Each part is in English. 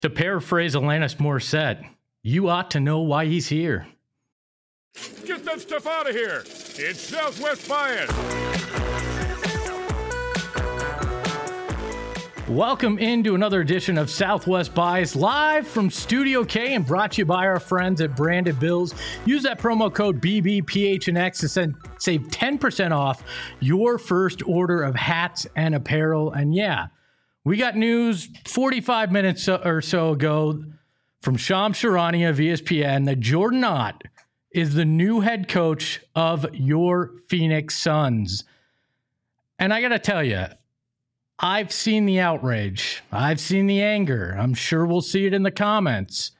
To paraphrase Alanis Morissette, you ought to know why he's here. Get that stuff out of here. It's Southwest Bias. Welcome into another edition of Southwest Bias, live from Studio K and brought to you by our friends at Branded Bills. Use that promo code BBPHNX to save 10% off your first order of hats and apparel. And yeah, we got news 45 minutes or so ago from Shams Charania of ESPN that Jordan Ott is the new head coach of your Phoenix Suns. And I got to tell you, I've seen the outrage. I've seen the anger. I'm sure we'll see it in the comments.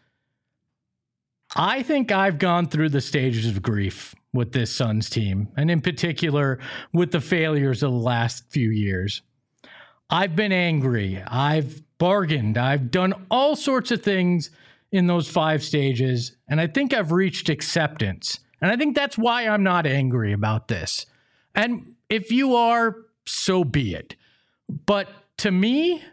I think I've gone through the stages of grief with this Suns team, and in particular with the failures of the last few years. I've been angry. I've bargained. I've done all sorts of things in those 5 stages, and I think I've reached acceptance. And I think that's why I'm not angry about this. And if you are, so be it. But to me,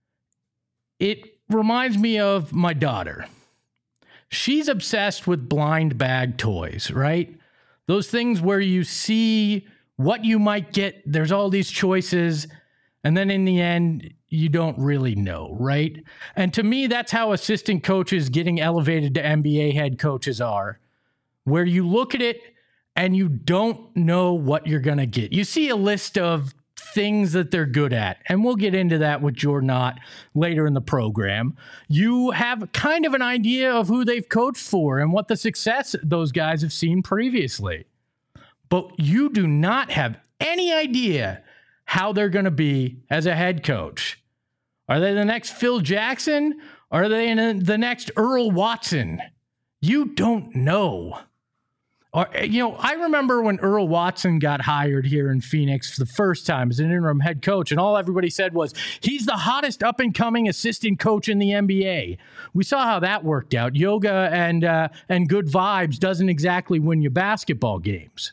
it reminds me of my daughter. She's obsessed with blind bag toys, right? Those things where you see what you might get. There's all these choices. And then in the end, you don't really know, right? And to me, that's how assistant coaches getting elevated to NBA head coaches are, where you look at it and you don't know what you're going to get. You see a list of things that they're good at, and we'll get into that with Jordan Ott later in the program. You have kind of an idea of who they've coached for and what the success those guys have seen previously. But you do not have any idea how they're going to be as a head coach. Are they the next Phil Jackson? Or are they the next Earl Watson? You don't know. Or, I remember when Earl Watson got hired here in Phoenix for the first time as an interim head coach, and all everybody said was, he's the hottest up-and-coming assistant coach in the NBA. We saw how that worked out. Yoga and good vibes doesn't exactly win you basketball games.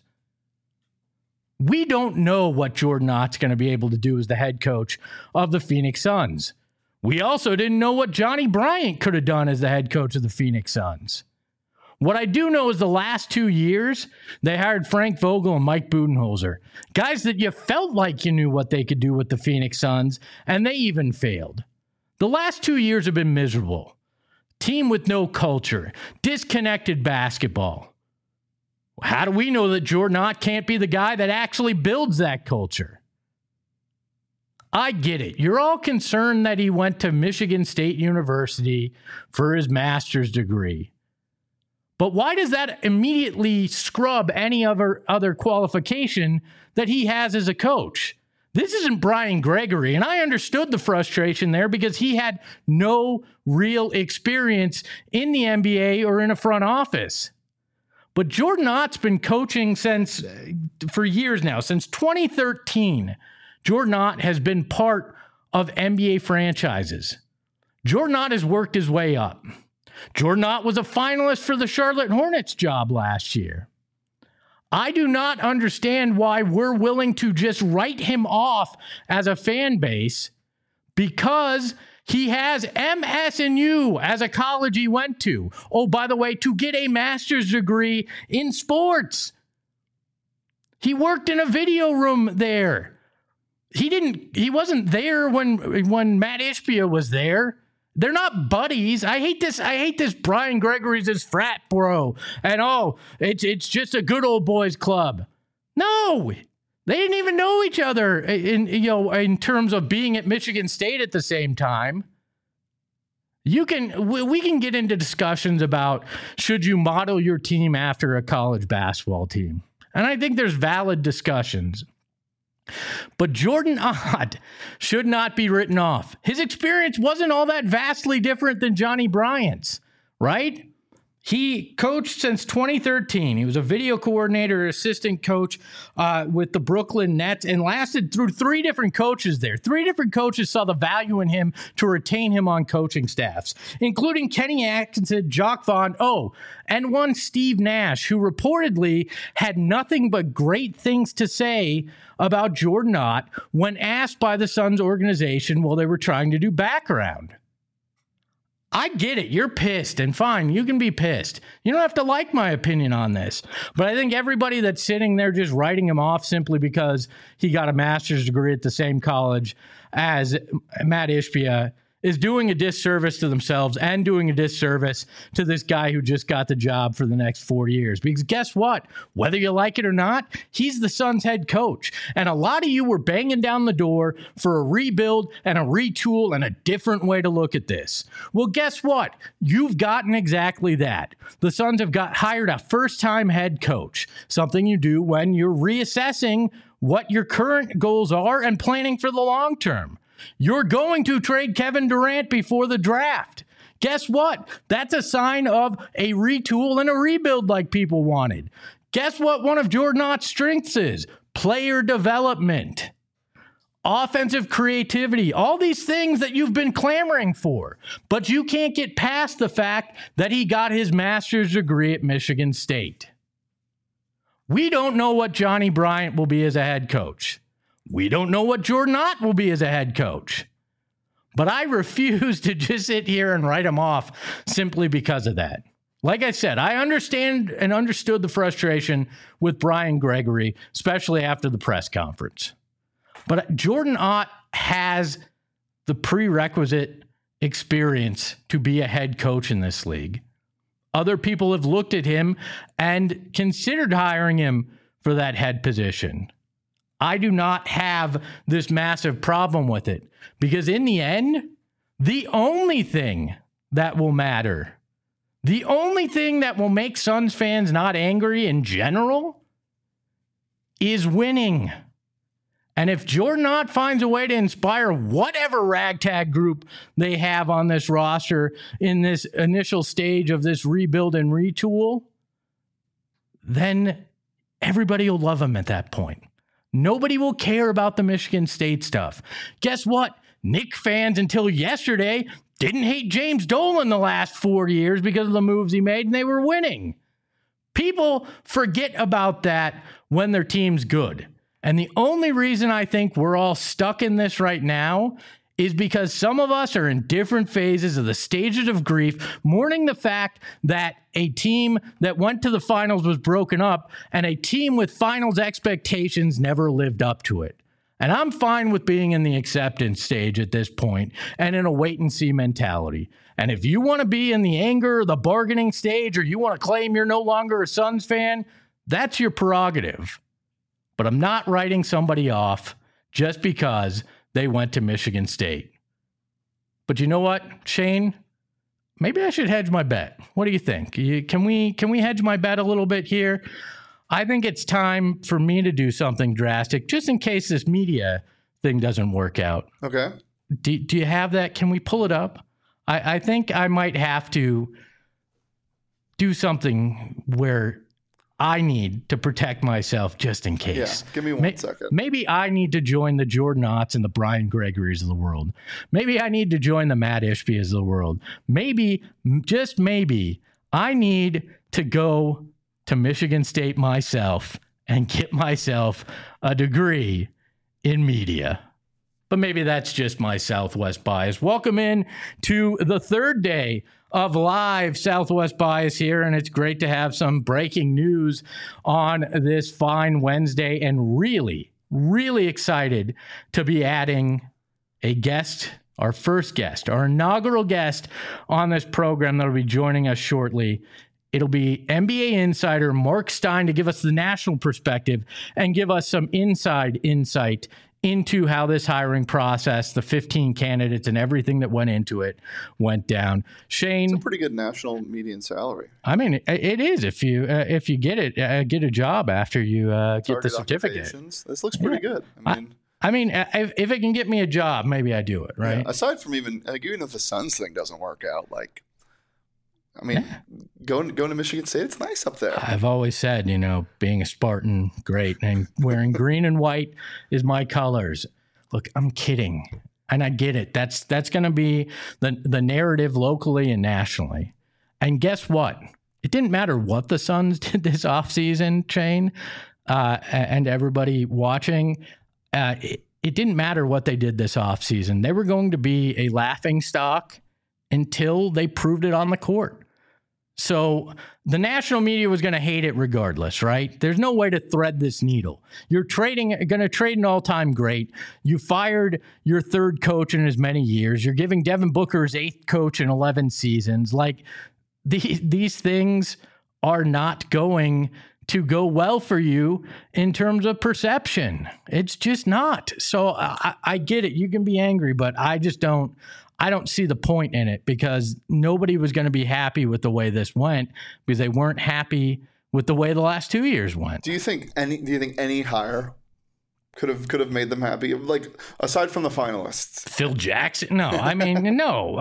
We don't know what Jordan Ott's going to be able to do as the head coach of the Phoenix Suns. We also didn't know what Johnny Bryant could have done as the head coach of the Phoenix Suns. What I do know is the last 2 years, they hired Frank Vogel and Mike Budenholzer, guys that you felt like you knew what they could do with the Phoenix Suns, and they even failed. The last 2 years have been miserable. Team with no culture, disconnected basketball. How do we know that Jordan Ott can't be the guy that actually builds that culture? I get it. You're all concerned that he went to Michigan State University for his master's degree. But why does that immediately scrub any other qualification that he has as a coach? This isn't Brian Gregory, and I understood the frustration there because he had no real experience in the NBA or in a front office. But Jordan Ott's been coaching for years now, since 2013. Jordan Ott has been part of NBA franchises. Jordan Ott has worked his way up. Jordan Ott was a finalist for the Charlotte Hornets job last year. I do not understand why we're willing to just write him off as a fan base because he has MSU as a college he went to. Oh, by the way, to get a master's degree in sports. He worked in a video room there. He wasn't there when Matt Ishbia was there. They're not buddies. I hate this Brian Gregory's his frat bro. And it's just a good old boys club. No, they didn't even know each other in terms of being at Michigan State at the same time. We can get into discussions about should you model your team after a college basketball team. And I think there's valid discussions. But Jordan Ott should not be written off. His experience wasn't all that vastly different than Johnny Bryant's, right? He coached since 2013. He was a video coordinator, assistant coach with the Brooklyn Nets, and lasted through 3 different coaches there. 3 different coaches saw the value in him to retain him on coaching staffs, including Kenny Atkinson, Jacques Vaughn, and one Steve Nash, who reportedly had nothing but great things to say about Jordan Ott when asked by the Suns organization while they were trying to do background. I get it. You're pissed, and fine, you can be pissed. You don't have to like my opinion on this. But I think everybody that's sitting there just writing him off simply because he got a master's degree at the same college as Matt Ishbia is doing a disservice to themselves and doing a disservice to this guy who just got the job for the next 4 years. Because guess what? Whether you like it or not, he's the Suns head coach. And a lot of you were banging down the door for a rebuild and a retool and a different way to look at this. Well, guess what? You've gotten exactly that. The Suns have hired a first-time head coach, something you do when you're reassessing what your current goals are and planning for the long term. You're going to trade Kevin Durant before the draft. Guess what? That's a sign of a retool and a rebuild like people wanted. Guess what one of Jordan Ott's strengths is? Player development, offensive creativity, all these things that you've been clamoring for. But you can't get past the fact that he got his master's degree at Michigan State. We don't know what Johnny Bryant will be as a head coach. We don't know what Jordan Ott will be as a head coach. But I refuse to just sit here and write him off simply because of that. Like I said, I understand and understood the frustration with Brian Gregory, especially after the press conference. But Jordan Ott has the prerequisite experience to be a head coach in this league. Other people have looked at him and considered hiring him for that head position. I do not have this massive problem with it because in the end, the only thing that will matter, the only thing that will make Suns fans not angry in general is winning. And if Jordan Ott finds a way to inspire whatever ragtag group they have on this roster in this initial stage of this rebuild and retool, then everybody will love him at that point. Nobody will care about the Michigan State stuff. Guess what? Knick fans until yesterday didn't hate James Dolan the last 4 years because of the moves he made, and they were winning. People forget about that when their team's good. And the only reason I think we're all stuck in this right now is because some of us are in different phases of the stages of grief, mourning the fact that a team that went to the finals was broken up and a team with finals expectations never lived up to it. And I'm fine with being in the acceptance stage at this point and in a wait and see mentality. And if you want to be in the anger or the bargaining stage, or you want to claim you're no longer a Suns fan, that's your prerogative. But I'm not writing somebody off just because they went to Michigan State. But you know what, Shane? Maybe I should hedge my bet. What do you think? Can we hedge my bet a little bit here? I think it's time for me to do something drastic, just in case this media thing doesn't work out. Okay. Do you have that? Can we pull it up? I think I might have to do something where I need to protect myself just in case. Yeah, give me 1 second. Maybe I need to join the Jordan Otts and the Brian Gregories of the world. Maybe I need to join the Matt Ishbias of the world. Maybe, just maybe, I need to go to Michigan State myself and get myself a degree in media. But maybe that's just my Southwest bias. Welcome in to the third day of live Southwest Bias here, and it's great to have some breaking news on this fine Wednesday, and really, really excited to be adding a guest, our first guest, our inaugural guest on this program that'll be joining us shortly. It'll be NBA insider Mark Stein to give us the national perspective and give us some inside insight into how this hiring process, the 15 candidates and everything that went into it, went down. Shane, it's a pretty good national median salary. I mean, it is if you get it, get a job after you get the certificate. This looks pretty good. I mean, if it can get me a job, maybe I do it, right? Yeah, aside from even if the Suns thing doesn't work out, going to Michigan State, it's nice up there. I've always said, being a Spartan, great, and wearing green and white is my colors. Look, I'm kidding, and I get it. That's going to be the narrative locally and nationally. And guess what? It didn't matter what the Suns did this offseason, Shane, and everybody watching. It didn't matter what they did this offseason. They were going to be a laughingstock until they proved it on the court. So the national media was going to hate it regardless, right? There's no way to thread this needle. You're going to trade an all-time great. You fired your third coach in as many years. You're giving Devin Booker his 8th coach in 11 seasons. Like, these things are not going to go well for you in terms of perception. It's just not. So I get it. You can be angry, but I don't see the point in it, because nobody was going to be happy with the way this went, because they weren't happy with the way the last 2 years went. Do you think any hire could have made them happy? Like, aside from the finalists, Phil Jackson? No, I mean, no.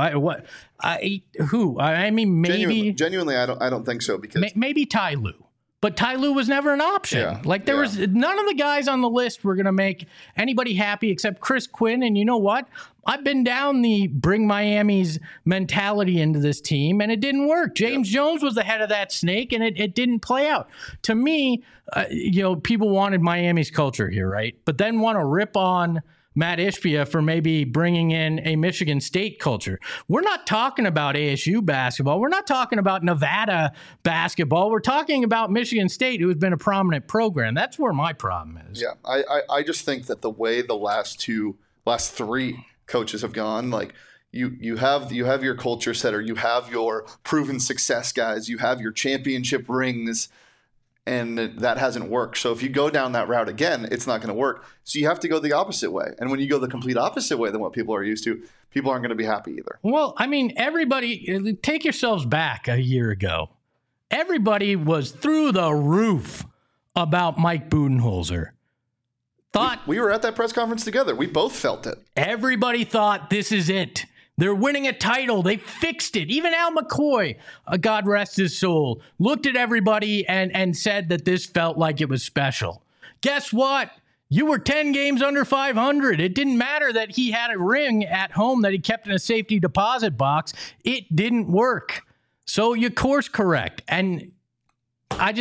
Maybe genuinely, I don't think so, because maybe Ty Lue. But Ty Lue was never an option. Yeah, like, there was none of the guys on the list were going to make anybody happy except Chris Quinn. And you know what? I've been down the bring Miami's mentality into this team, and it didn't work. James Jones was the head of that snake, and it didn't play out. To me, people wanted Miami's culture here, right? But then want to rip on Matt Ishbia for maybe bringing in a Michigan State culture. We're not talking about ASU basketball. We're not talking about Nevada basketball. We're talking about Michigan State, who has been a prominent program. That's where my problem is. Yeah, I just think that the way the last 3 coaches have gone, like, you have your culture setter, you have your proven success guys, you have your championship rings, and that hasn't worked. So if you go down that route again, it's not going to work. So you have to go the opposite way. And when you go the complete opposite way than what people are used to, people aren't going to be happy either. Well, I mean, everybody, take yourselves back a year ago. Everybody was through the roof about Mike Budenholzer. We were at that press conference together. We both felt it. Everybody thought, this is it. They're winning a title. They fixed it. Even Al McCoy, God rest his soul, looked at everybody and said that this felt like it was special. Guess what? You were 10 games under 500. It didn't matter that he had a ring at home that he kept in a safety deposit box. It didn't work. So you course correct. And I'm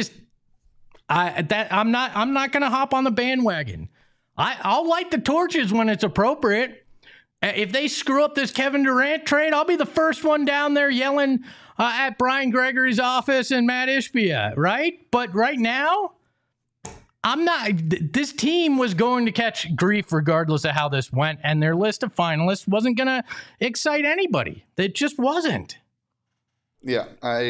not going to hop on the bandwagon. I'll light the torches when it's appropriate. If they screw up this Kevin Durant trade, I'll be the first one down there yelling at Brian Gregory's office and Matt Ishbia, right? But right now, I'm not. This team was going to catch grief regardless of how this went, and their list of finalists wasn't going to excite anybody. It just wasn't. Yeah,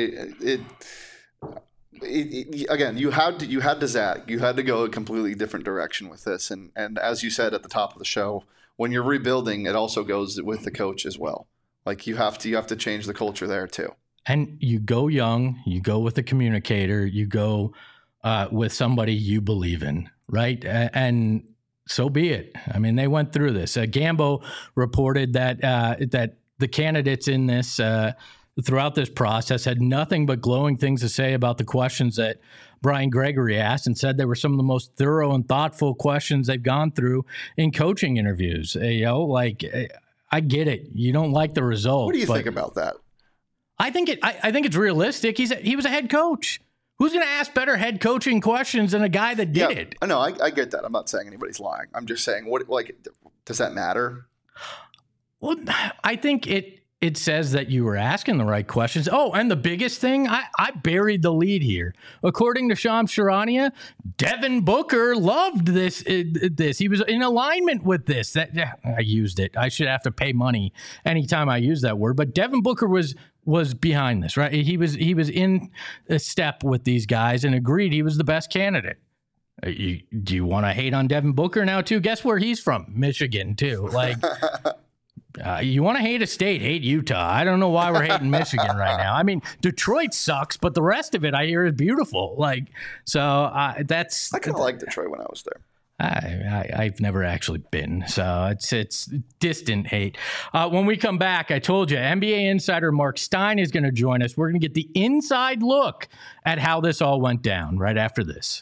again, you had to zag. You had to go a completely different direction with this, and as you said at the top of the show, when you're rebuilding, it also goes with the coach as well. Like, you have to change the culture there too. And you go young, you go with a communicator, you go with somebody you believe in, right? And so be it. I mean, they went through this. Gambo reported that that the candidates in this throughout this process had nothing but glowing things to say about the questions that Brian Gregory asked, and said they were some of the most thorough and thoughtful questions they've gone through in coaching interviews. I get it. You don't like the result. What do you think about that? I think it's realistic. He was a head coach. Who's going to ask better head coaching questions than a guy that did it? No, I get that. I'm not saying anybody's lying. I'm just saying, does that matter? Well, I think it says that you were asking the right questions. Oh, and the biggest thing, I buried the lead here. According to Shams Charania, Devin Booker loved this. He was in alignment with this. I used it. I should have to pay money anytime I use that word. But Devin Booker was behind this, right? He was in a step with these guys and agreed he was the best candidate. Do you want to hate on Devin Booker now too? Guess where he's from? Michigan too. Like. You want to hate a state, hate Utah. I don't know why we're hating Michigan right now. I mean, Detroit sucks, but the rest of it I hear is beautiful. Like, so that's. I kind of liked Detroit when I was there. I've never actually been, so it's distant hate. When we come back, I told you, NBA insider Mark Stein is going to join us. We're going to get the inside look at how this all went down right after this.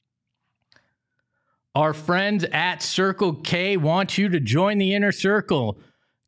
Our friends at Circle K want you to join the inner circle.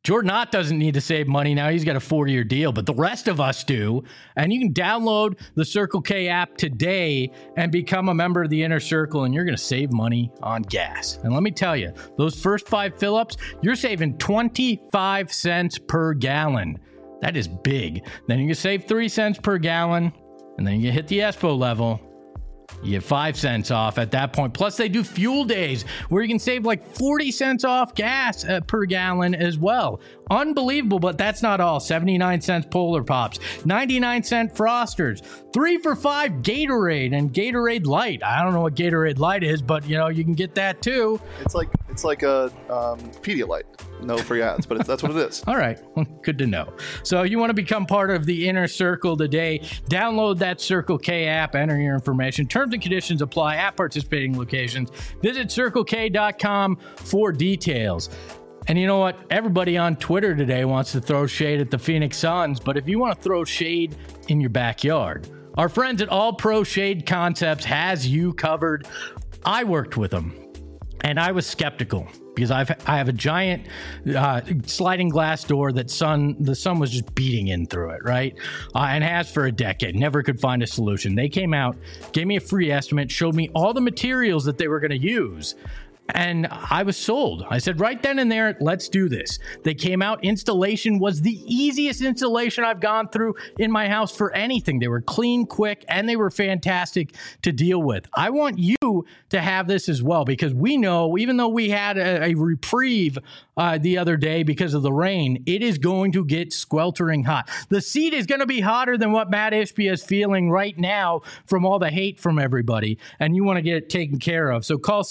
Jordan Ott doesn't need to save money now. He's got a 4-year deal, but the rest of us do. And you can download the Circle K app today and become a member of the Inner Circle, and you're going to save money on gas. And let me tell you, those first 5 fill-ups, you're saving 25 cents per gallon. That is big. Then you can save 3 cents per gallon, and then you hit the ESPO level. You get 5 cents off at that point. Plus, they do fuel days where you can save like 40 cents off gas per gallon as well. Unbelievable, but that's not all. 79 cents Polar Pops, 99-cent Frosters, 3 for $5 Gatorade and Gatorade Light. I don't know what Gatorade Light is, but you can get that too. It's like a Pedialyte. No free ads, but that's what it is. All right. Well, good to know. So you want to become part of the Inner Circle today. Download that Circle K app, enter your information. Terms and conditions apply at participating locations. Visit CircleK.com for details. And you know what? Everybody on Twitter today wants to throw shade at the Phoenix Suns, but if you want to throw shade in your backyard, our friends at All Pro Shade Concepts has you covered. I worked with them, and I was skeptical because I have a giant sliding glass door that the sun was just beating in through it, right? And has for a decade. Never could find a solution. They came out, gave me a free estimate, showed me all the materials that they were going to use. And I was sold. I said right then and there, let's do this. They came out. Installation was the easiest installation I've gone through in my house for anything. They were clean, quick, and they were fantastic to deal with. I want you to have this as well, because we know, even though we had a reprieve the other day because of the rain, it is going to get sweltering hot. The seat is going to be hotter than what Matt Ishbia is feeling right now from all the hate from everybody, and you want to get it taken care of. So call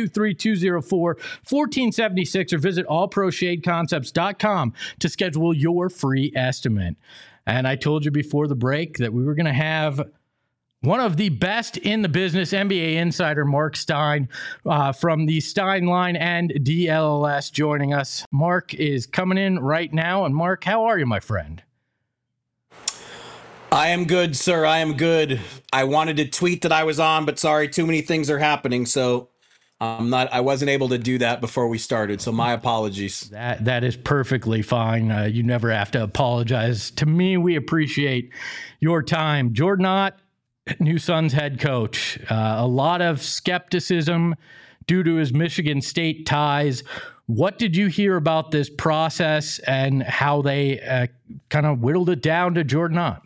623-204-1476 or visit allproshadeconcepts.com to schedule your free estimate. And I told you before the break that we were going to have one of the best in the business, NBA insider Mark Stein from the Stein Line and DLLS joining us. Mark is coming in right now. And Mark, how are you, my friend? I am good, sir. I am good. I wanted to tweet that I was on, but sorry, too many things are happening. So I wasn't able to do that before we started. So my apologies. That is perfectly fine. You never have to apologize to me. We appreciate your time. Jordan Ott, new Suns head coach. A lot of skepticism due to his Michigan State ties. What did you hear about this process and how they kind of whittled it down to Jordan Ott?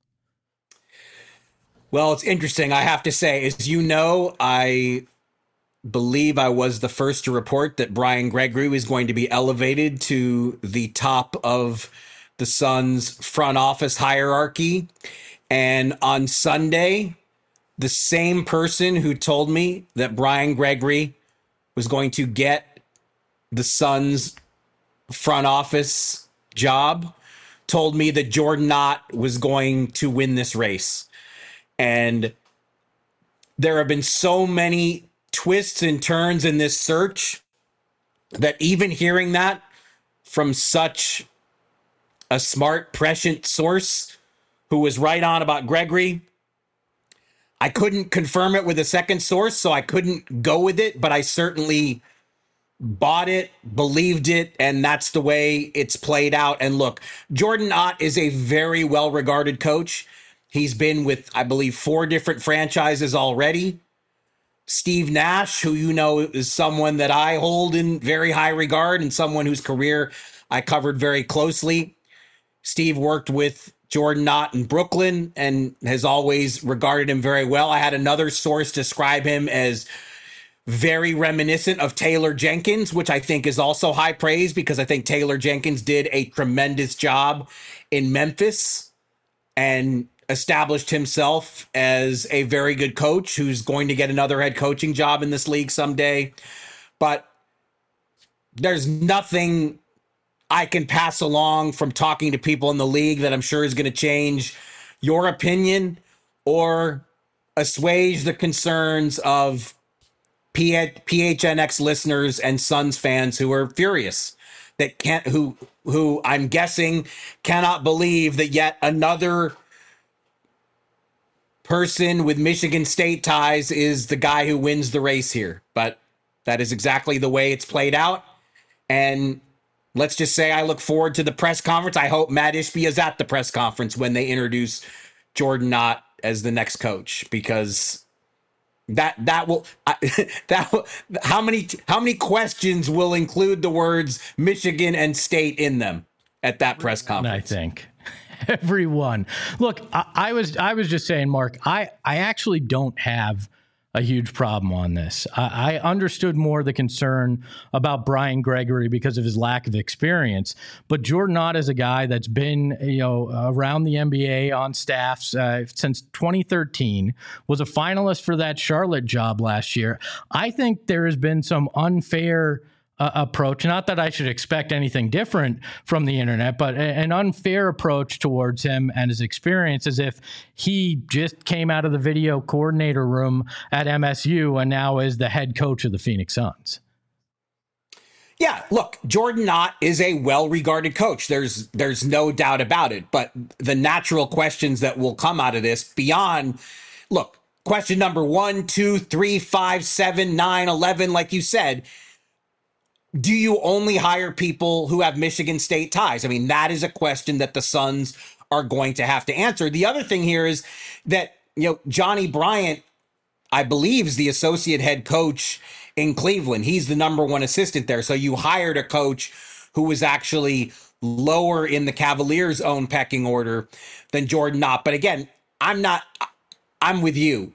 Well, it's interesting. I have to say, as you know, I believe I was the first to report that Brian Gregory was going to be elevated to the top of the Suns front office hierarchy. And on Sunday, the same person who told me that Brian Gregory was going to get the Suns front office job told me that Jordan Ott was going to win this race. And there have been so many twists and turns in this search that even hearing that from such a smart, prescient source who was right on about Gregory, I couldn't confirm it with a second source, so I couldn't go with it, but I certainly bought it, believed it, and that's the way it's played out. And look, Jordan Ott is a very well-regarded coach. He's been with, I believe, 4 different franchises already. Steve Nash, who you know is someone that I hold in very high regard and someone whose career I covered very closely. Steve worked with Jordan Ott in Brooklyn and has always regarded him very well. I had another source describe him as very reminiscent of Taylor Jenkins, which I think is also high praise because I think Taylor Jenkins did a tremendous job in Memphis and established himself as a very good coach who's going to get another head coaching job in this league someday. But there's nothing I can pass along from talking to people in the league that I'm sure is going to change your opinion or assuage the concerns of PHNX listeners and Suns fans who are furious that who I'm guessing cannot believe that yet another person with Michigan State ties is the guy who wins the race here. But that is exactly the way it's played out. And let's just say I look forward to the press conference. I hope Matt Ishbia is at the press conference when they introduce Jordan Knott as the next coach, because that will how many questions will include the words Michigan and State in them at that press conference? I think everyone. Look, I was just saying, Mark, I actually don't have a huge problem on this. I understood more the concern about Brian Gregory because of his lack of experience, but Jordan Knott is a guy that's been, around the NBA on staffs since 2013, was a finalist for that Charlotte job last year. I think there has been some unfair approach. Not that I should expect anything different from the internet, but an unfair approach towards him and his experience, as if he just came out of the video coordinator room at MSU and now is the head coach of the Phoenix Suns. Yeah, look, Jordan Knott is a well-regarded coach. There's no doubt about it. But the natural questions that will come out of this beyond, look, question number 1, 2, 3, 5, 7, 9, 11, like you said, do you only hire people who have Michigan State ties? I mean, that is a question that the Suns are going to have to answer. The other thing here is that, Johnny Bryant, I believe, is the associate head coach in Cleveland. He's the number one assistant there. So you hired a coach who was actually lower in the Cavaliers' own pecking order than Jordan Knott. But again, I'm with you.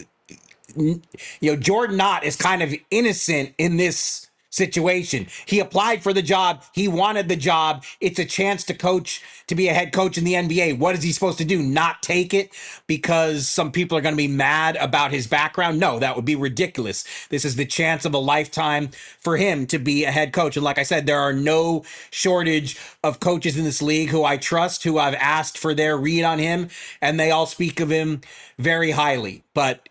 Jordan Knott is kind of innocent in this situation. He applied for the job. He wanted the job. It's a chance to be a head coach in the NBA. What is he supposed to do? Not take it because some people are going to be mad about his background? No, that would be ridiculous. This is the chance of a lifetime for him to be a head coach. And like I said, there are no shortage of coaches in this league who I trust, who I've asked for their read on him, and they all speak of him very highly. But,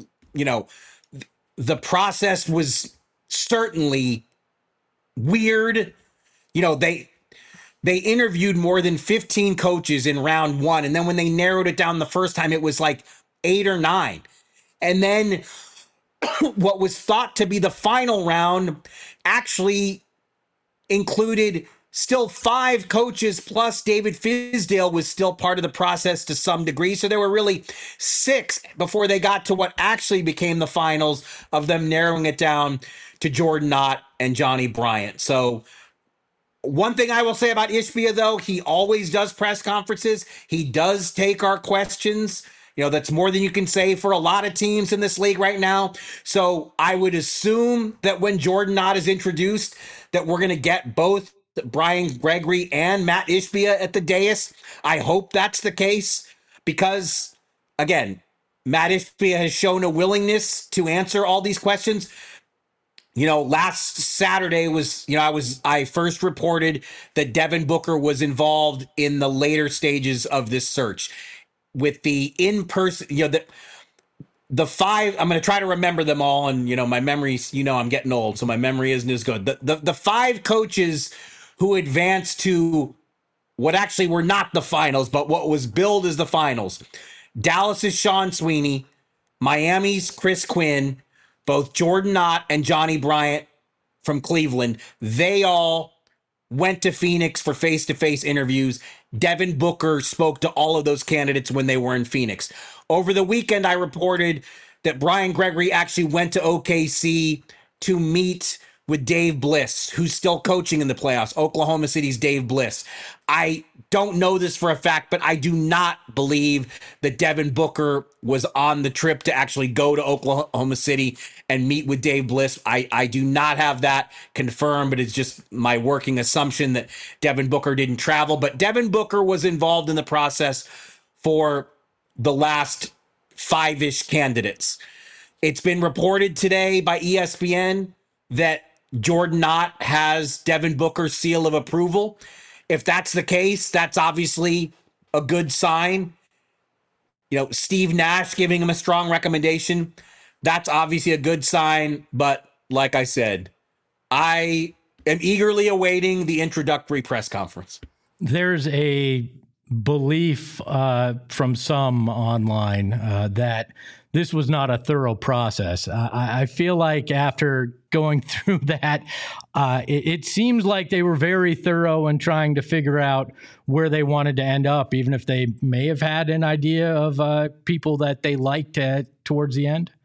the process was certainly weird. They interviewed more than 15 coaches in round 1. And then when they narrowed it down the first time, it was like 8 or 9. And then what was thought to be the final round actually included still 5 coaches, plus David Fizdale was still part of the process to some degree. So there were really 6 before they got to what actually became the finals of them narrowing it down to Jordan Knott and Johnny Bryant. So one thing I will say about Ishbia, though, he always does press conferences. He does take our questions. That's more than you can say for a lot of teams in this league right now. So I would assume that when Jordan Knott is introduced, that we're going to get both Brian Gregory and Matt Ishbia at the dais. I hope that's the case because, again, Matt Ishbia has shown a willingness to answer all these questions. Last Saturday was, I first reported that Devin Booker was involved in the later stages of this search with the in-person, the 5, I'm going to try to remember them all. And, my memories, I'm getting old, so my memory isn't as good. The 5 coaches who advanced to what actually were not the finals, but what was billed as the finals. Dallas's Sean Sweeney, Miami's Chris Quinn, both Jordan Knott and Johnny Bryant from Cleveland. They all went to Phoenix for face-to-face interviews. Devin Booker spoke to all of those candidates when they were in Phoenix. Over the weekend, I reported that Brian Gregory actually went to OKC to meet with Dave Bliss, who's still coaching in the playoffs, Oklahoma City's Dave Bliss. I don't know this for a fact, but I do not believe that Devin Booker was on the trip to actually go to Oklahoma City and meet with Dave Bliss. I do not have that confirmed, but it's just my working assumption that Devin Booker didn't travel. But Devin Booker was involved in the process for the last 5-ish candidates. It's been reported today by ESPN that Jordan Knott has Devin Booker's seal of approval. If that's the case, that's obviously a good sign. Steve Nash giving him a strong recommendation. That's obviously a good sign. But like I said, I am eagerly awaiting the introductory press conference. There's a belief from some online that this was not a thorough process. I feel like after going through that, it seems like they were very thorough in trying to figure out where they wanted to end up, even if they may have had an idea of people that they liked towards the end.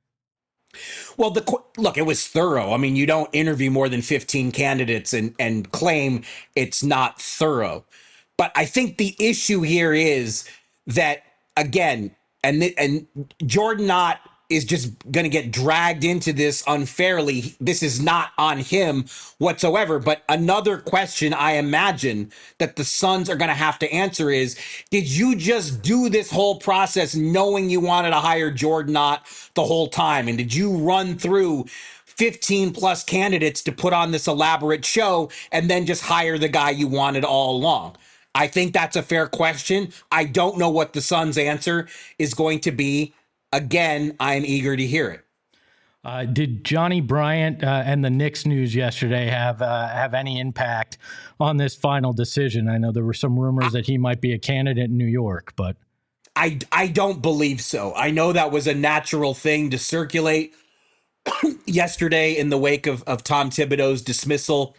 Well, look, it was thorough. I mean, you don't interview more than 15 candidates and claim it's not thorough. But I think the issue here is that, again, and Jordan Knott is just going to get dragged into this unfairly. This is not on him whatsoever. But another question I imagine that the Suns are going to have to answer is, did you just do this whole process knowing you wanted to hire Jordan Knott the whole time? And did you run through 15 plus candidates to put on this elaborate show and then just hire the guy you wanted all along? I think that's a fair question. I don't know what the Suns' answer is going to be. Again, I'm eager to hear it. Did Johnny Bryant and the Knicks news yesterday have any impact on this final decision? I know there were some rumors that he might be a candidate in New York, but I don't believe so. I know that was a natural thing to circulate yesterday in the wake of Tom Thibodeau's dismissal.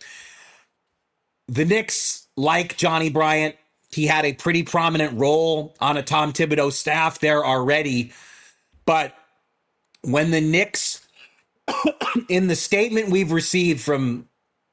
The Knicks, like Johnny Bryant, he had a pretty prominent role on a Tom Thibodeau staff there already. But when the Knicks, in the statement we've received from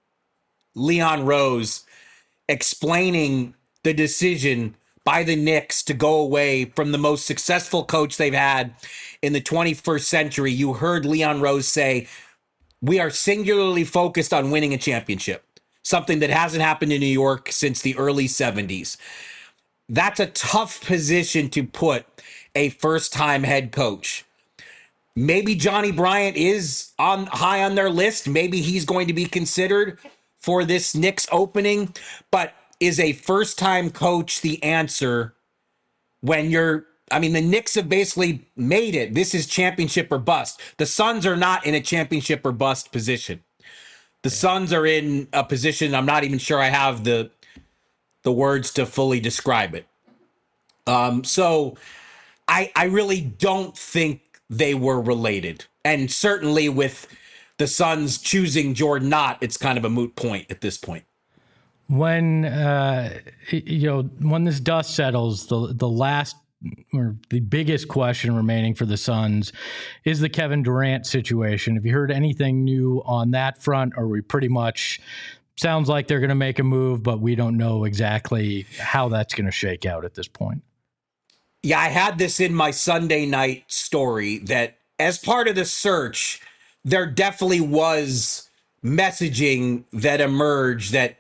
Leon Rose explaining the decision by the Knicks to go away from the most successful coach they've had in the 21st century, you heard Leon Rose say, we are singularly focused on winning a championship, something that hasn't happened in New York since the early 70s. That's a tough position to put a first-time head coach. Maybe Johnny Bryant is high on their list. Maybe he's going to be considered for this Knicks opening. But is a first-time coach the answer when the Knicks have basically made it. This is championship or bust. The Suns are not in a championship or bust position. The Suns are in a position, I'm not even sure I have the words to fully describe it. So I really don't think they were related. And certainly with the Suns choosing Jordan Knott, it's kind of a moot point at this point. When when this dust settles, the last or the biggest question remaining for the Suns is the Kevin Durant situation. Have you heard anything new on that front? Or we pretty much sounds like they're going to make a move, but we don't know exactly how that's going to shake out at this point? Yeah, I had this in my Sunday night story that as part of the search, there definitely was messaging that emerged that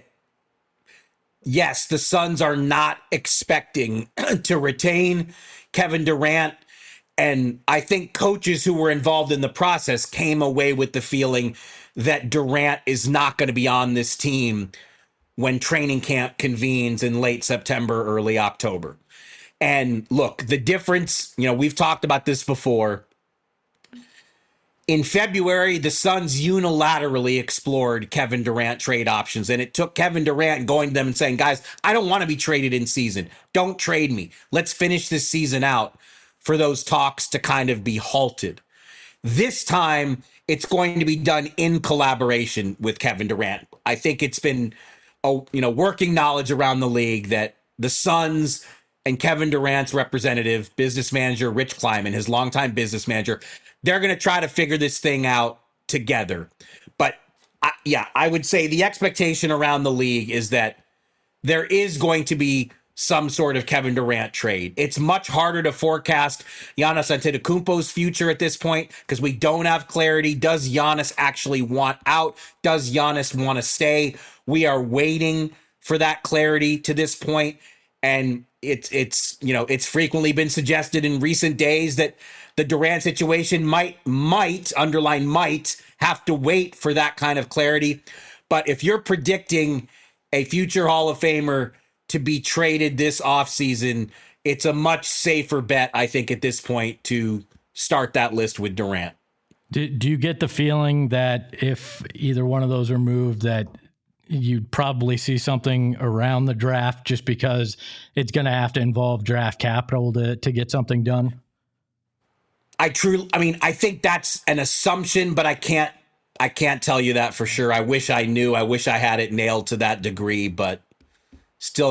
yes, the Suns are not expecting to retain Kevin Durant. And I think coaches who were involved in the process came away with the feeling that Durant is not going to be on this team when training camp convenes in late September, early October. And look, the difference, we've talked about this before. In February, the Suns unilaterally explored Kevin Durant trade options, and it took Kevin Durant going to them and saying, guys, I don't want to be traded in season. Don't trade me. Let's finish this season out for those talks to kind of be halted. This time, it's going to be done in collaboration with Kevin Durant. I think it's been, working knowledge around the league that the Suns and Kevin Durant's representative, business manager Rich Kleiman, his longtime business manager, they're going to try to figure this thing out together. But I would say the expectation around the league is that there is going to be some sort of Kevin Durant trade. It's much harder to forecast Giannis Antetokounmpo's future at this point because we don't have clarity. Does Giannis actually want out? Does Giannis want to stay? We are waiting for that clarity to this point. And it's frequently been suggested in recent days that the Durant situation might underline might have to wait for that kind of clarity. But if you're predicting a future Hall of Famer to be traded this offseason, it's a much safer bet, I think, at this point to start that list with Durant. Do you get the feeling that if either one of those are moved, that you'd probably see something around the draft just because it's going to have to involve draft capital to get something done? I think that's an assumption, but I can't tell you that for sure. I wish I knew. I wish I had it nailed to that degree, but still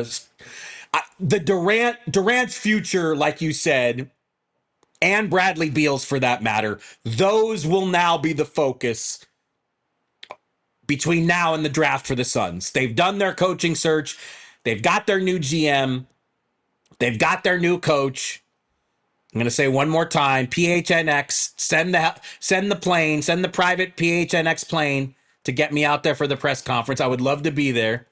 the Durant's future, like you said, and Bradley Beal's for that matter, those will now be the focus between now and the draft for the Suns. They've done their coaching search. They've got their new GM. They've got their new coach. I'm going to say one more time, PHNX, send the private PHNX plane to get me out there for the press conference. I would love to be there.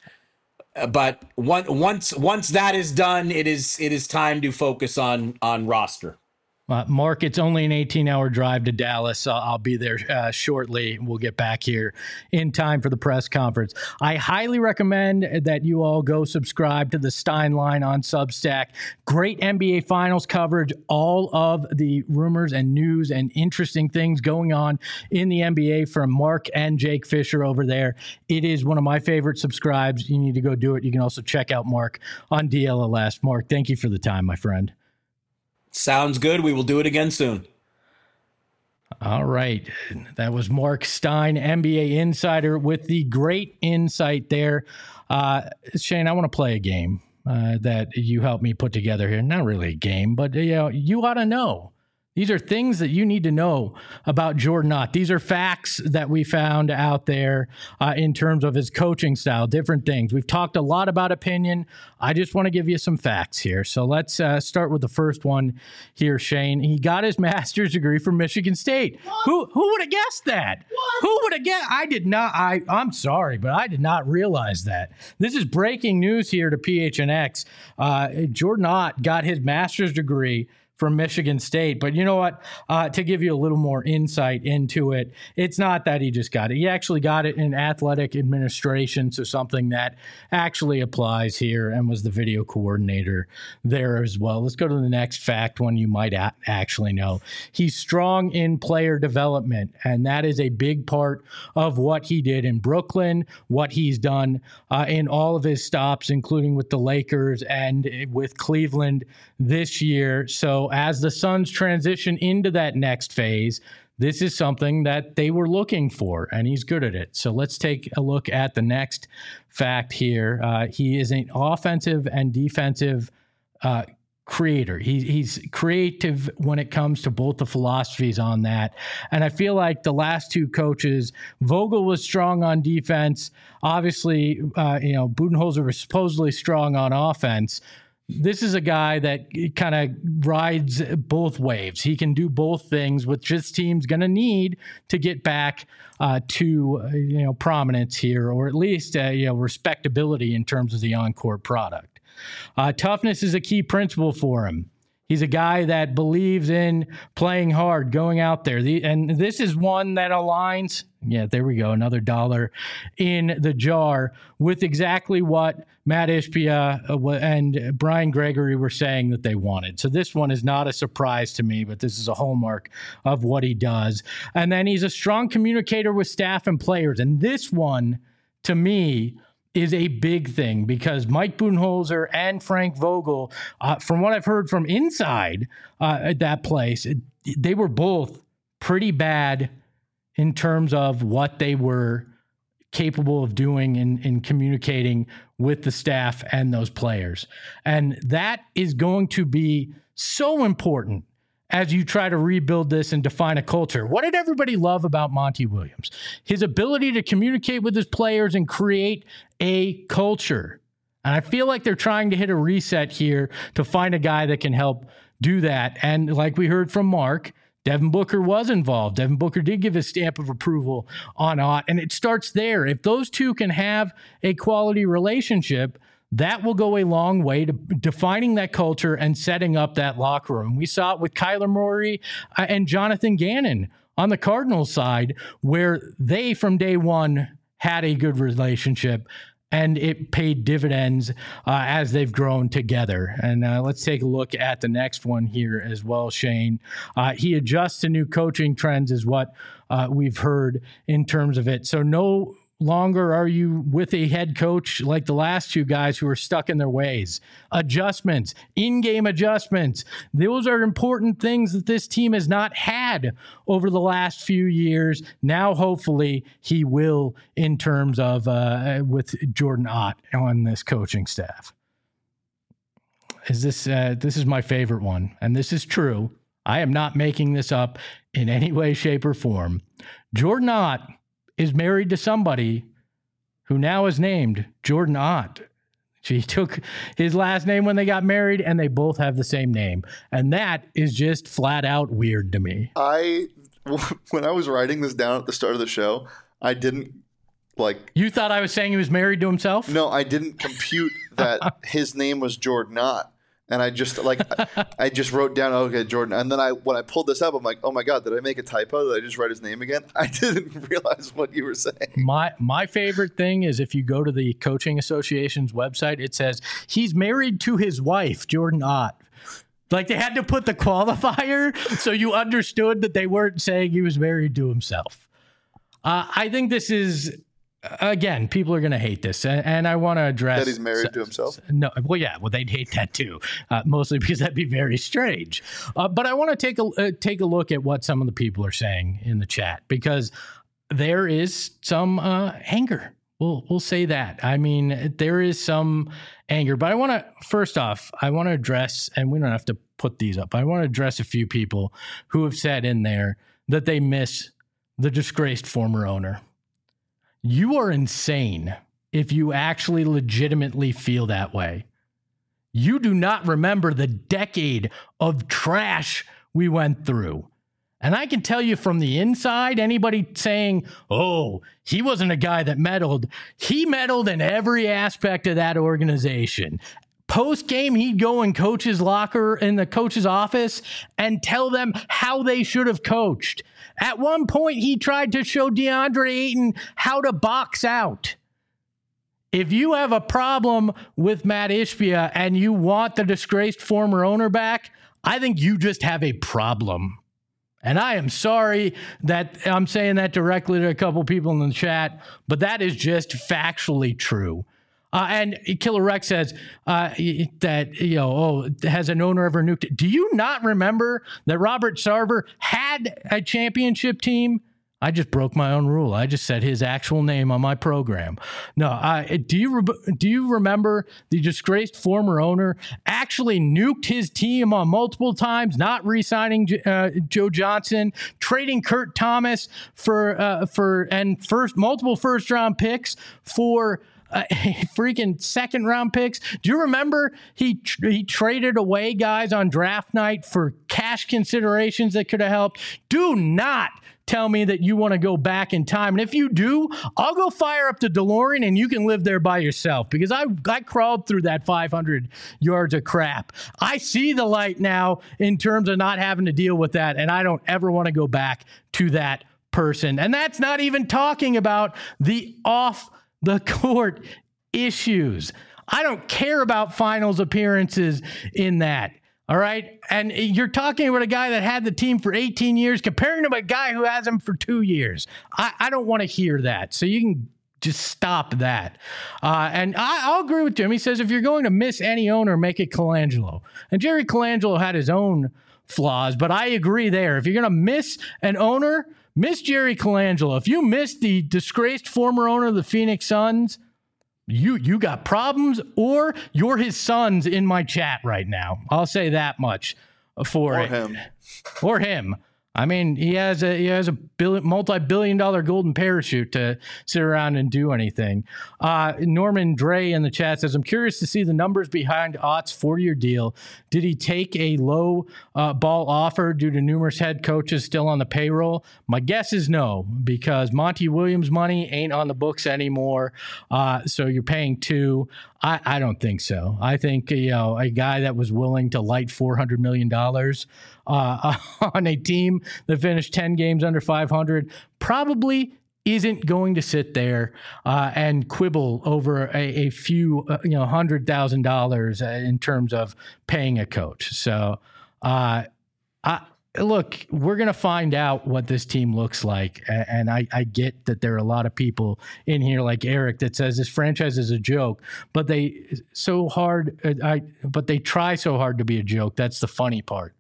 But once that is done, it is time to focus on roster. Mark, it's only an 18-hour drive to Dallas. I'll be there shortly. We'll get back here in time for the press conference. I highly recommend that you all go subscribe to the Stein Line on Substack. Great NBA Finals coverage, all of the rumors and news and interesting things going on in the NBA from Mark and Jake Fisher over there. It is one of my favorite subscribes. You need to go do it. You can also check out Mark on DLLS. Mark, thank you for the time, my friend. Sounds good. We will do it again soon. All right. That was Mark Stein, NBA insider, with the great insight there. Shane, I want to play a game that you helped me put together here. Not really a game, but you ought to know. These are things that you need to know about Jordan Ott. These are facts that we found out there in terms of his coaching style, different things. We've talked a lot about opinion. I just want to give you some facts here. So let's start with the first one here, Shane. He got his master's degree from Michigan State. Who would have guessed that? What? Who would have guessed? I did not. I'm sorry, but I did not realize that. This is breaking news here to PHNX. Jordan Ott got his master's degree from Michigan State. But you know what? To give you a little more insight into it, it's not that he just got it. He actually got it in athletic administration, so something that actually applies here, and was the video coordinator there as well. Let's go to the next fact, one you might actually know. He's strong in player development, and that is a big part of what he did in Brooklyn, what he's done in all of his stops, including with the Lakers and with Cleveland this year. So as the Suns transition into that next phase, this is something that they were looking for, and he's good at it. So let's take a look at the next fact here. He is an offensive and defensive creator. He's creative when it comes to both the philosophies on that. And I feel like the last two coaches, Vogel was strong on defense. Obviously, Budenholzer was supposedly strong on offense. This is a guy that kind of rides both waves. He can do both things, which this team's going to need to get back to prominence here, or at least respectability in terms of the on-court product. Toughness is a key principle for him. He's a guy that believes in playing hard, going out there. And this is one that aligns, there we go, another dollar in the jar, with exactly what Matt Ishbia and Brian Gregory were saying that they wanted. So this one is not a surprise to me, but this is a hallmark of what he does. And then he's a strong communicator with staff and players. And this one, to me, is a big thing, because Mike Budenholzer and Frank Vogel, from what I've heard from inside at that place, they were both pretty bad in terms of what they were capable of doing in communicating with the staff and those players. And that is going to be so important as you try to rebuild this and define a culture. What did everybody love about Monty Williams? His ability to communicate with his players and create a culture. And I feel like they're trying to hit a reset here to find a guy that can help do that. And like we heard from Mark, Devin Booker was involved. Devin Booker did give his stamp of approval on Ott, and it starts there. If those two can have a quality relationship, that will go a long way to defining that culture and setting up that locker room. We saw it with Kyler Murray and Jonathan Gannon on the Cardinals side, where they from day one had a good relationship, and it paid dividends as they've grown together. And let's take a look at the next one here as well, Shane. He adjusts to new coaching trends is what we've heard in terms of it. So no longer are you with a head coach like the last two guys who are stuck in their ways. Adjustments, in-game adjustments. Those are important things that this team has not had over the last few years. Now, hopefully, he will in terms of with Jordan Ott on this coaching staff. This is my favorite one, and this is true. I am not making this up in any way, shape, or form. Jordan Ott is married to somebody who now is named Jordan Ott. She took his last name when they got married, and they both have the same name. And that is just flat out weird to me. When I was writing this down at the start of the show, I didn't You thought I was saying he was married to himself? No, I didn't compute that his name was Jordan Ott. And I just I just wrote down, okay, Jordan. And then when I pulled this up, I'm like, oh my God, did I make a typo? Did I just write his name again? I didn't realize what you were saying. My favorite thing is if you go to the Coaching Association's website, it says he's married to his wife, Jordan Ott. Like they had to put the qualifier so you understood that they weren't saying he was married to himself. I think this is... Again, people are going to hate this, and I want to address that he's married to himself. No, well, yeah, they'd hate that too, mostly because that'd be very strange. But I want to take a look at what some of the people are saying in the chat because there is some anger. We'll say that. I mean, there is some anger, but I want to first off, I want to address, and we don't have to put these up. I want to address a few people who have said in there that they miss the disgraced former owner. You are insane if you actually legitimately feel that way. You do not remember the decade of trash we went through. And I can tell you from the inside, anybody saying, oh, he wasn't a guy that meddled. He meddled in every aspect of that organization. Post game, he'd go in coach's locker in the coach's office and tell them how they should have coached. At one point, he tried to show DeAndre Ayton how to box out. If you have a problem with Matt Ishbia and you want the disgraced former owner back, I think you just have a problem. And I am sorry that I'm saying that directly to a couple people in the chat, but that is just factually true. And Killer Rex says that, has an owner ever nuked it? Do you not remember that Robert Sarver had a championship team? I just broke my own rule. I just said his actual name on my program. No, do you remember the disgraced former owner actually nuked his team on multiple times, not re-signing Joe Johnson, trading Kurt Thomas for multiple first round picks for freaking second round picks? Do you remember he traded away guys on draft night for cash considerations that could have helped? Do not tell me that you want to go back in time. And if you do, I'll go fire up the DeLorean and you can live there by yourself because I crawled through that 500 yards of crap. I see the light now in terms of not having to deal with that. And I don't ever want to go back to that person. And that's not even talking about the off the court issues. I don't care about finals appearances in that. All right. And you're talking about a guy that had the team for 18 years, comparing to a guy who has him for 2 years. I don't want to hear that. So you can just stop that. And I'll agree with Jim. He says, if you're going to miss any owner, make it Colangelo. And Jerry Colangelo had his own flaws, but I agree there. If you're going to miss an owner, miss Jerry Colangelo. If you miss the disgraced former owner of the Phoenix Suns, you got problems, or you're his sons in my chat right now. I'll say that much for or it. Him. Or him. I mean, he has a multi-billion-dollar golden parachute to sit around and do anything. Norman Dre in the chat says, I'm curious to see the numbers behind Ott's 4-year deal. Did he take a low ball offer due to numerous head coaches still on the payroll? My guess is no, because Monty Williams' money ain't on the books anymore. So you're paying $2. I don't think so. I think, a guy that was willing to light $400 million on a team that finished 10 games under 500 probably isn't going to sit there and quibble over a few, $100,000 in terms of paying a coach. So I look, we're going to find out what this team looks like. And I get that there are a lot of people in here like Eric that says this franchise is a joke, but they try so hard to be a joke. That's the funny part.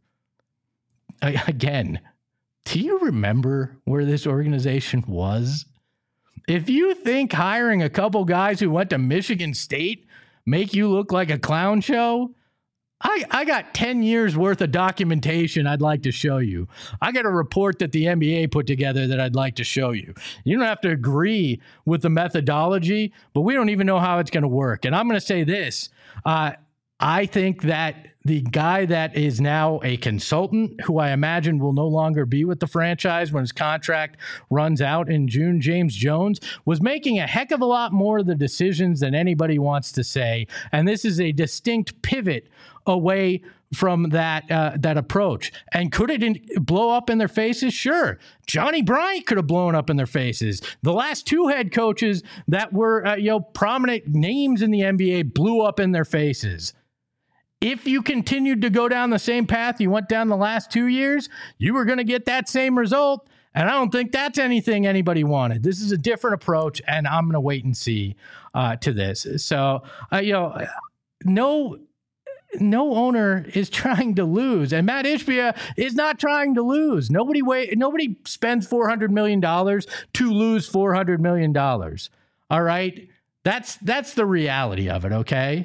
Again, do you remember where this organization was? If you think hiring a couple guys who went to Michigan State make you look like a clown show, I got 10 years worth of documentation I'd like to show you. I got a report that the NBA put together that I'd like to show you. You don't have to agree with the methodology, but we don't even know how it's going to work. And I'm going to say this. I think that the guy that is now a consultant, who I imagine will no longer be with the franchise when his contract runs out in June, James Jones, was making a heck of a lot more of the decisions than anybody wants to say. And this is a distinct pivot away from that approach. And could it blow up in their faces? Sure. Johnny Bryant could have blown up in their faces. The last two head coaches that were prominent names in the NBA blew up in their faces. If you continued to go down the same path you went down the last 2 years, you were going to get that same result. And I don't think that's anything anybody wanted. This is a different approach, and I'm going to wait and see to this. So, no owner is trying to lose, and Matt Ishbia is not trying to lose. Nobody spends $400 million to lose $400 million. All right, that's the reality of it. Okay.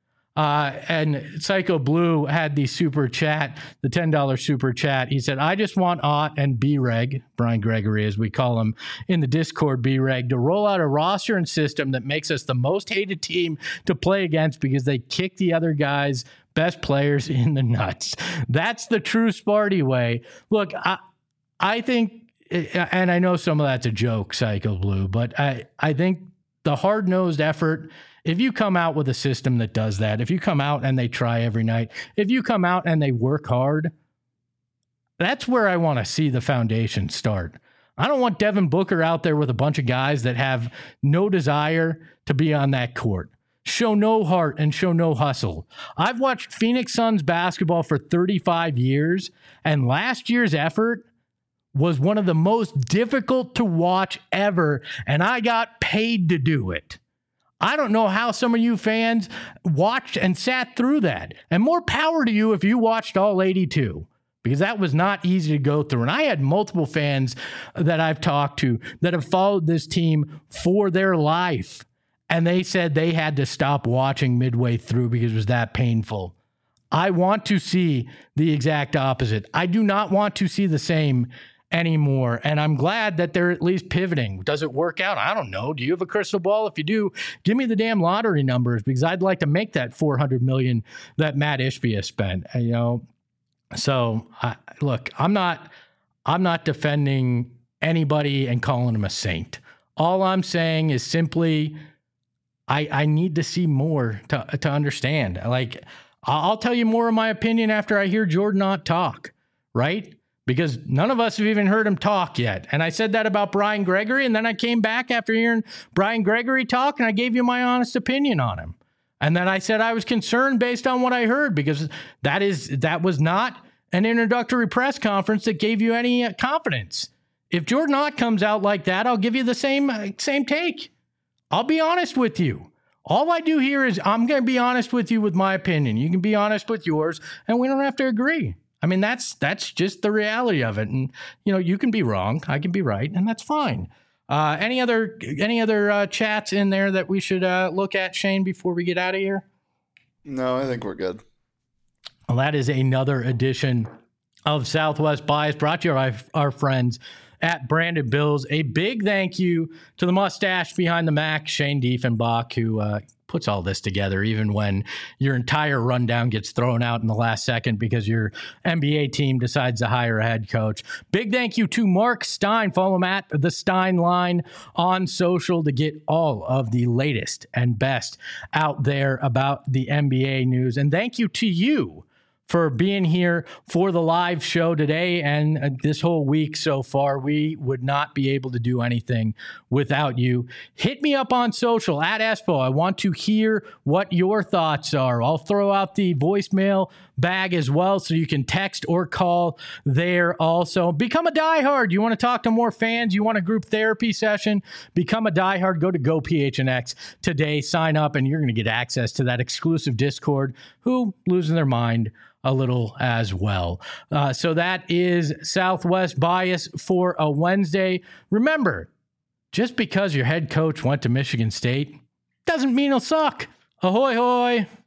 And Psycho Blue had the super chat, the $10 super chat. He said, I just want Ott and B-Reg, Brian Gregory, as we call him in the Discord, B-Reg, to roll out a roster and system that makes us the most hated team to play against because they kick the other guys' best players in the nuts. That's the true Sparty way. Look, I think, and I know some of that's a joke, Psycho Blue, but I think the hard-nosed effort, if you come out with a system that does that, if you come out and they try every night, if you come out and they work hard, that's where I want to see the foundation start. I don't want Devin Booker out there with a bunch of guys that have no desire to be on that court, show no heart and show no hustle. I've watched Phoenix Suns basketball for 35 years, and last year's effort was one of the most difficult to watch ever, and I got paid to do it. I don't know how some of you fans watched and sat through that. And more power to you if you watched all 82, because that was not easy to go through. And I had multiple fans that I've talked to that have followed this team for their life, and they said they had to stop watching midway through because it was that painful. I want to see the exact opposite. I do not want to see the same anymore. And I'm glad that they're at least pivoting. Does it work out? I don't know. Do you have a crystal ball? If you do, give me the damn lottery numbers, because I'd like to make that $400 million that Matt Ishbia spent, So look, I'm not defending anybody and calling him a saint. All I'm saying is simply, I need to see more to understand. Like, I'll tell you more of my opinion after I hear Jordan Ott talk, right? Because none of us have even heard him talk yet. And I said that about Brian Gregory, and then I came back after hearing Brian Gregory talk, and I gave you my honest opinion on him. And then I said I was concerned based on what I heard, because that was not an introductory press conference that gave you any confidence. If Jordan Ott comes out like that, I'll give you the same take. I'll be honest with you. All I do here is I'm going to be honest with you with my opinion. You can be honest with yours, and we don't have to agree. I mean, that's just the reality of it. And, you can be wrong. I can be right. And that's fine. Any other chats in there that we should look at, Shane, before we get out of here? No, I think we're good. Well, that is another edition of Southwest Bias, brought to you by our friends at Branded Bills. A big thank you to the mustache behind the Mac, Shane Diefenbach, who puts all this together, even when your entire rundown gets thrown out in the last second because your NBA team decides to hire a head coach. Big thank you to Mark Stein. Follow him at The Stein Line on social to get all of the latest and best out there about the NBA news. And thank you to you for being here for the live show today and this whole week so far. We would not be able to do anything without you. Hit me up on social at Espo. I want to hear what your thoughts are. I'll throw out the voicemail bag as well, so you can text or call there also. Become a diehard. You want to talk to more fans? You want a group therapy session? Become a diehard. Go to GoPHNX today. Sign up, and you're going to get access to that exclusive Discord. Who losing their mind a little as well. So that is Southwest Bias for a Wednesday. Remember, just because your head coach went to Michigan State doesn't mean he'll suck. Ahoy, hoy.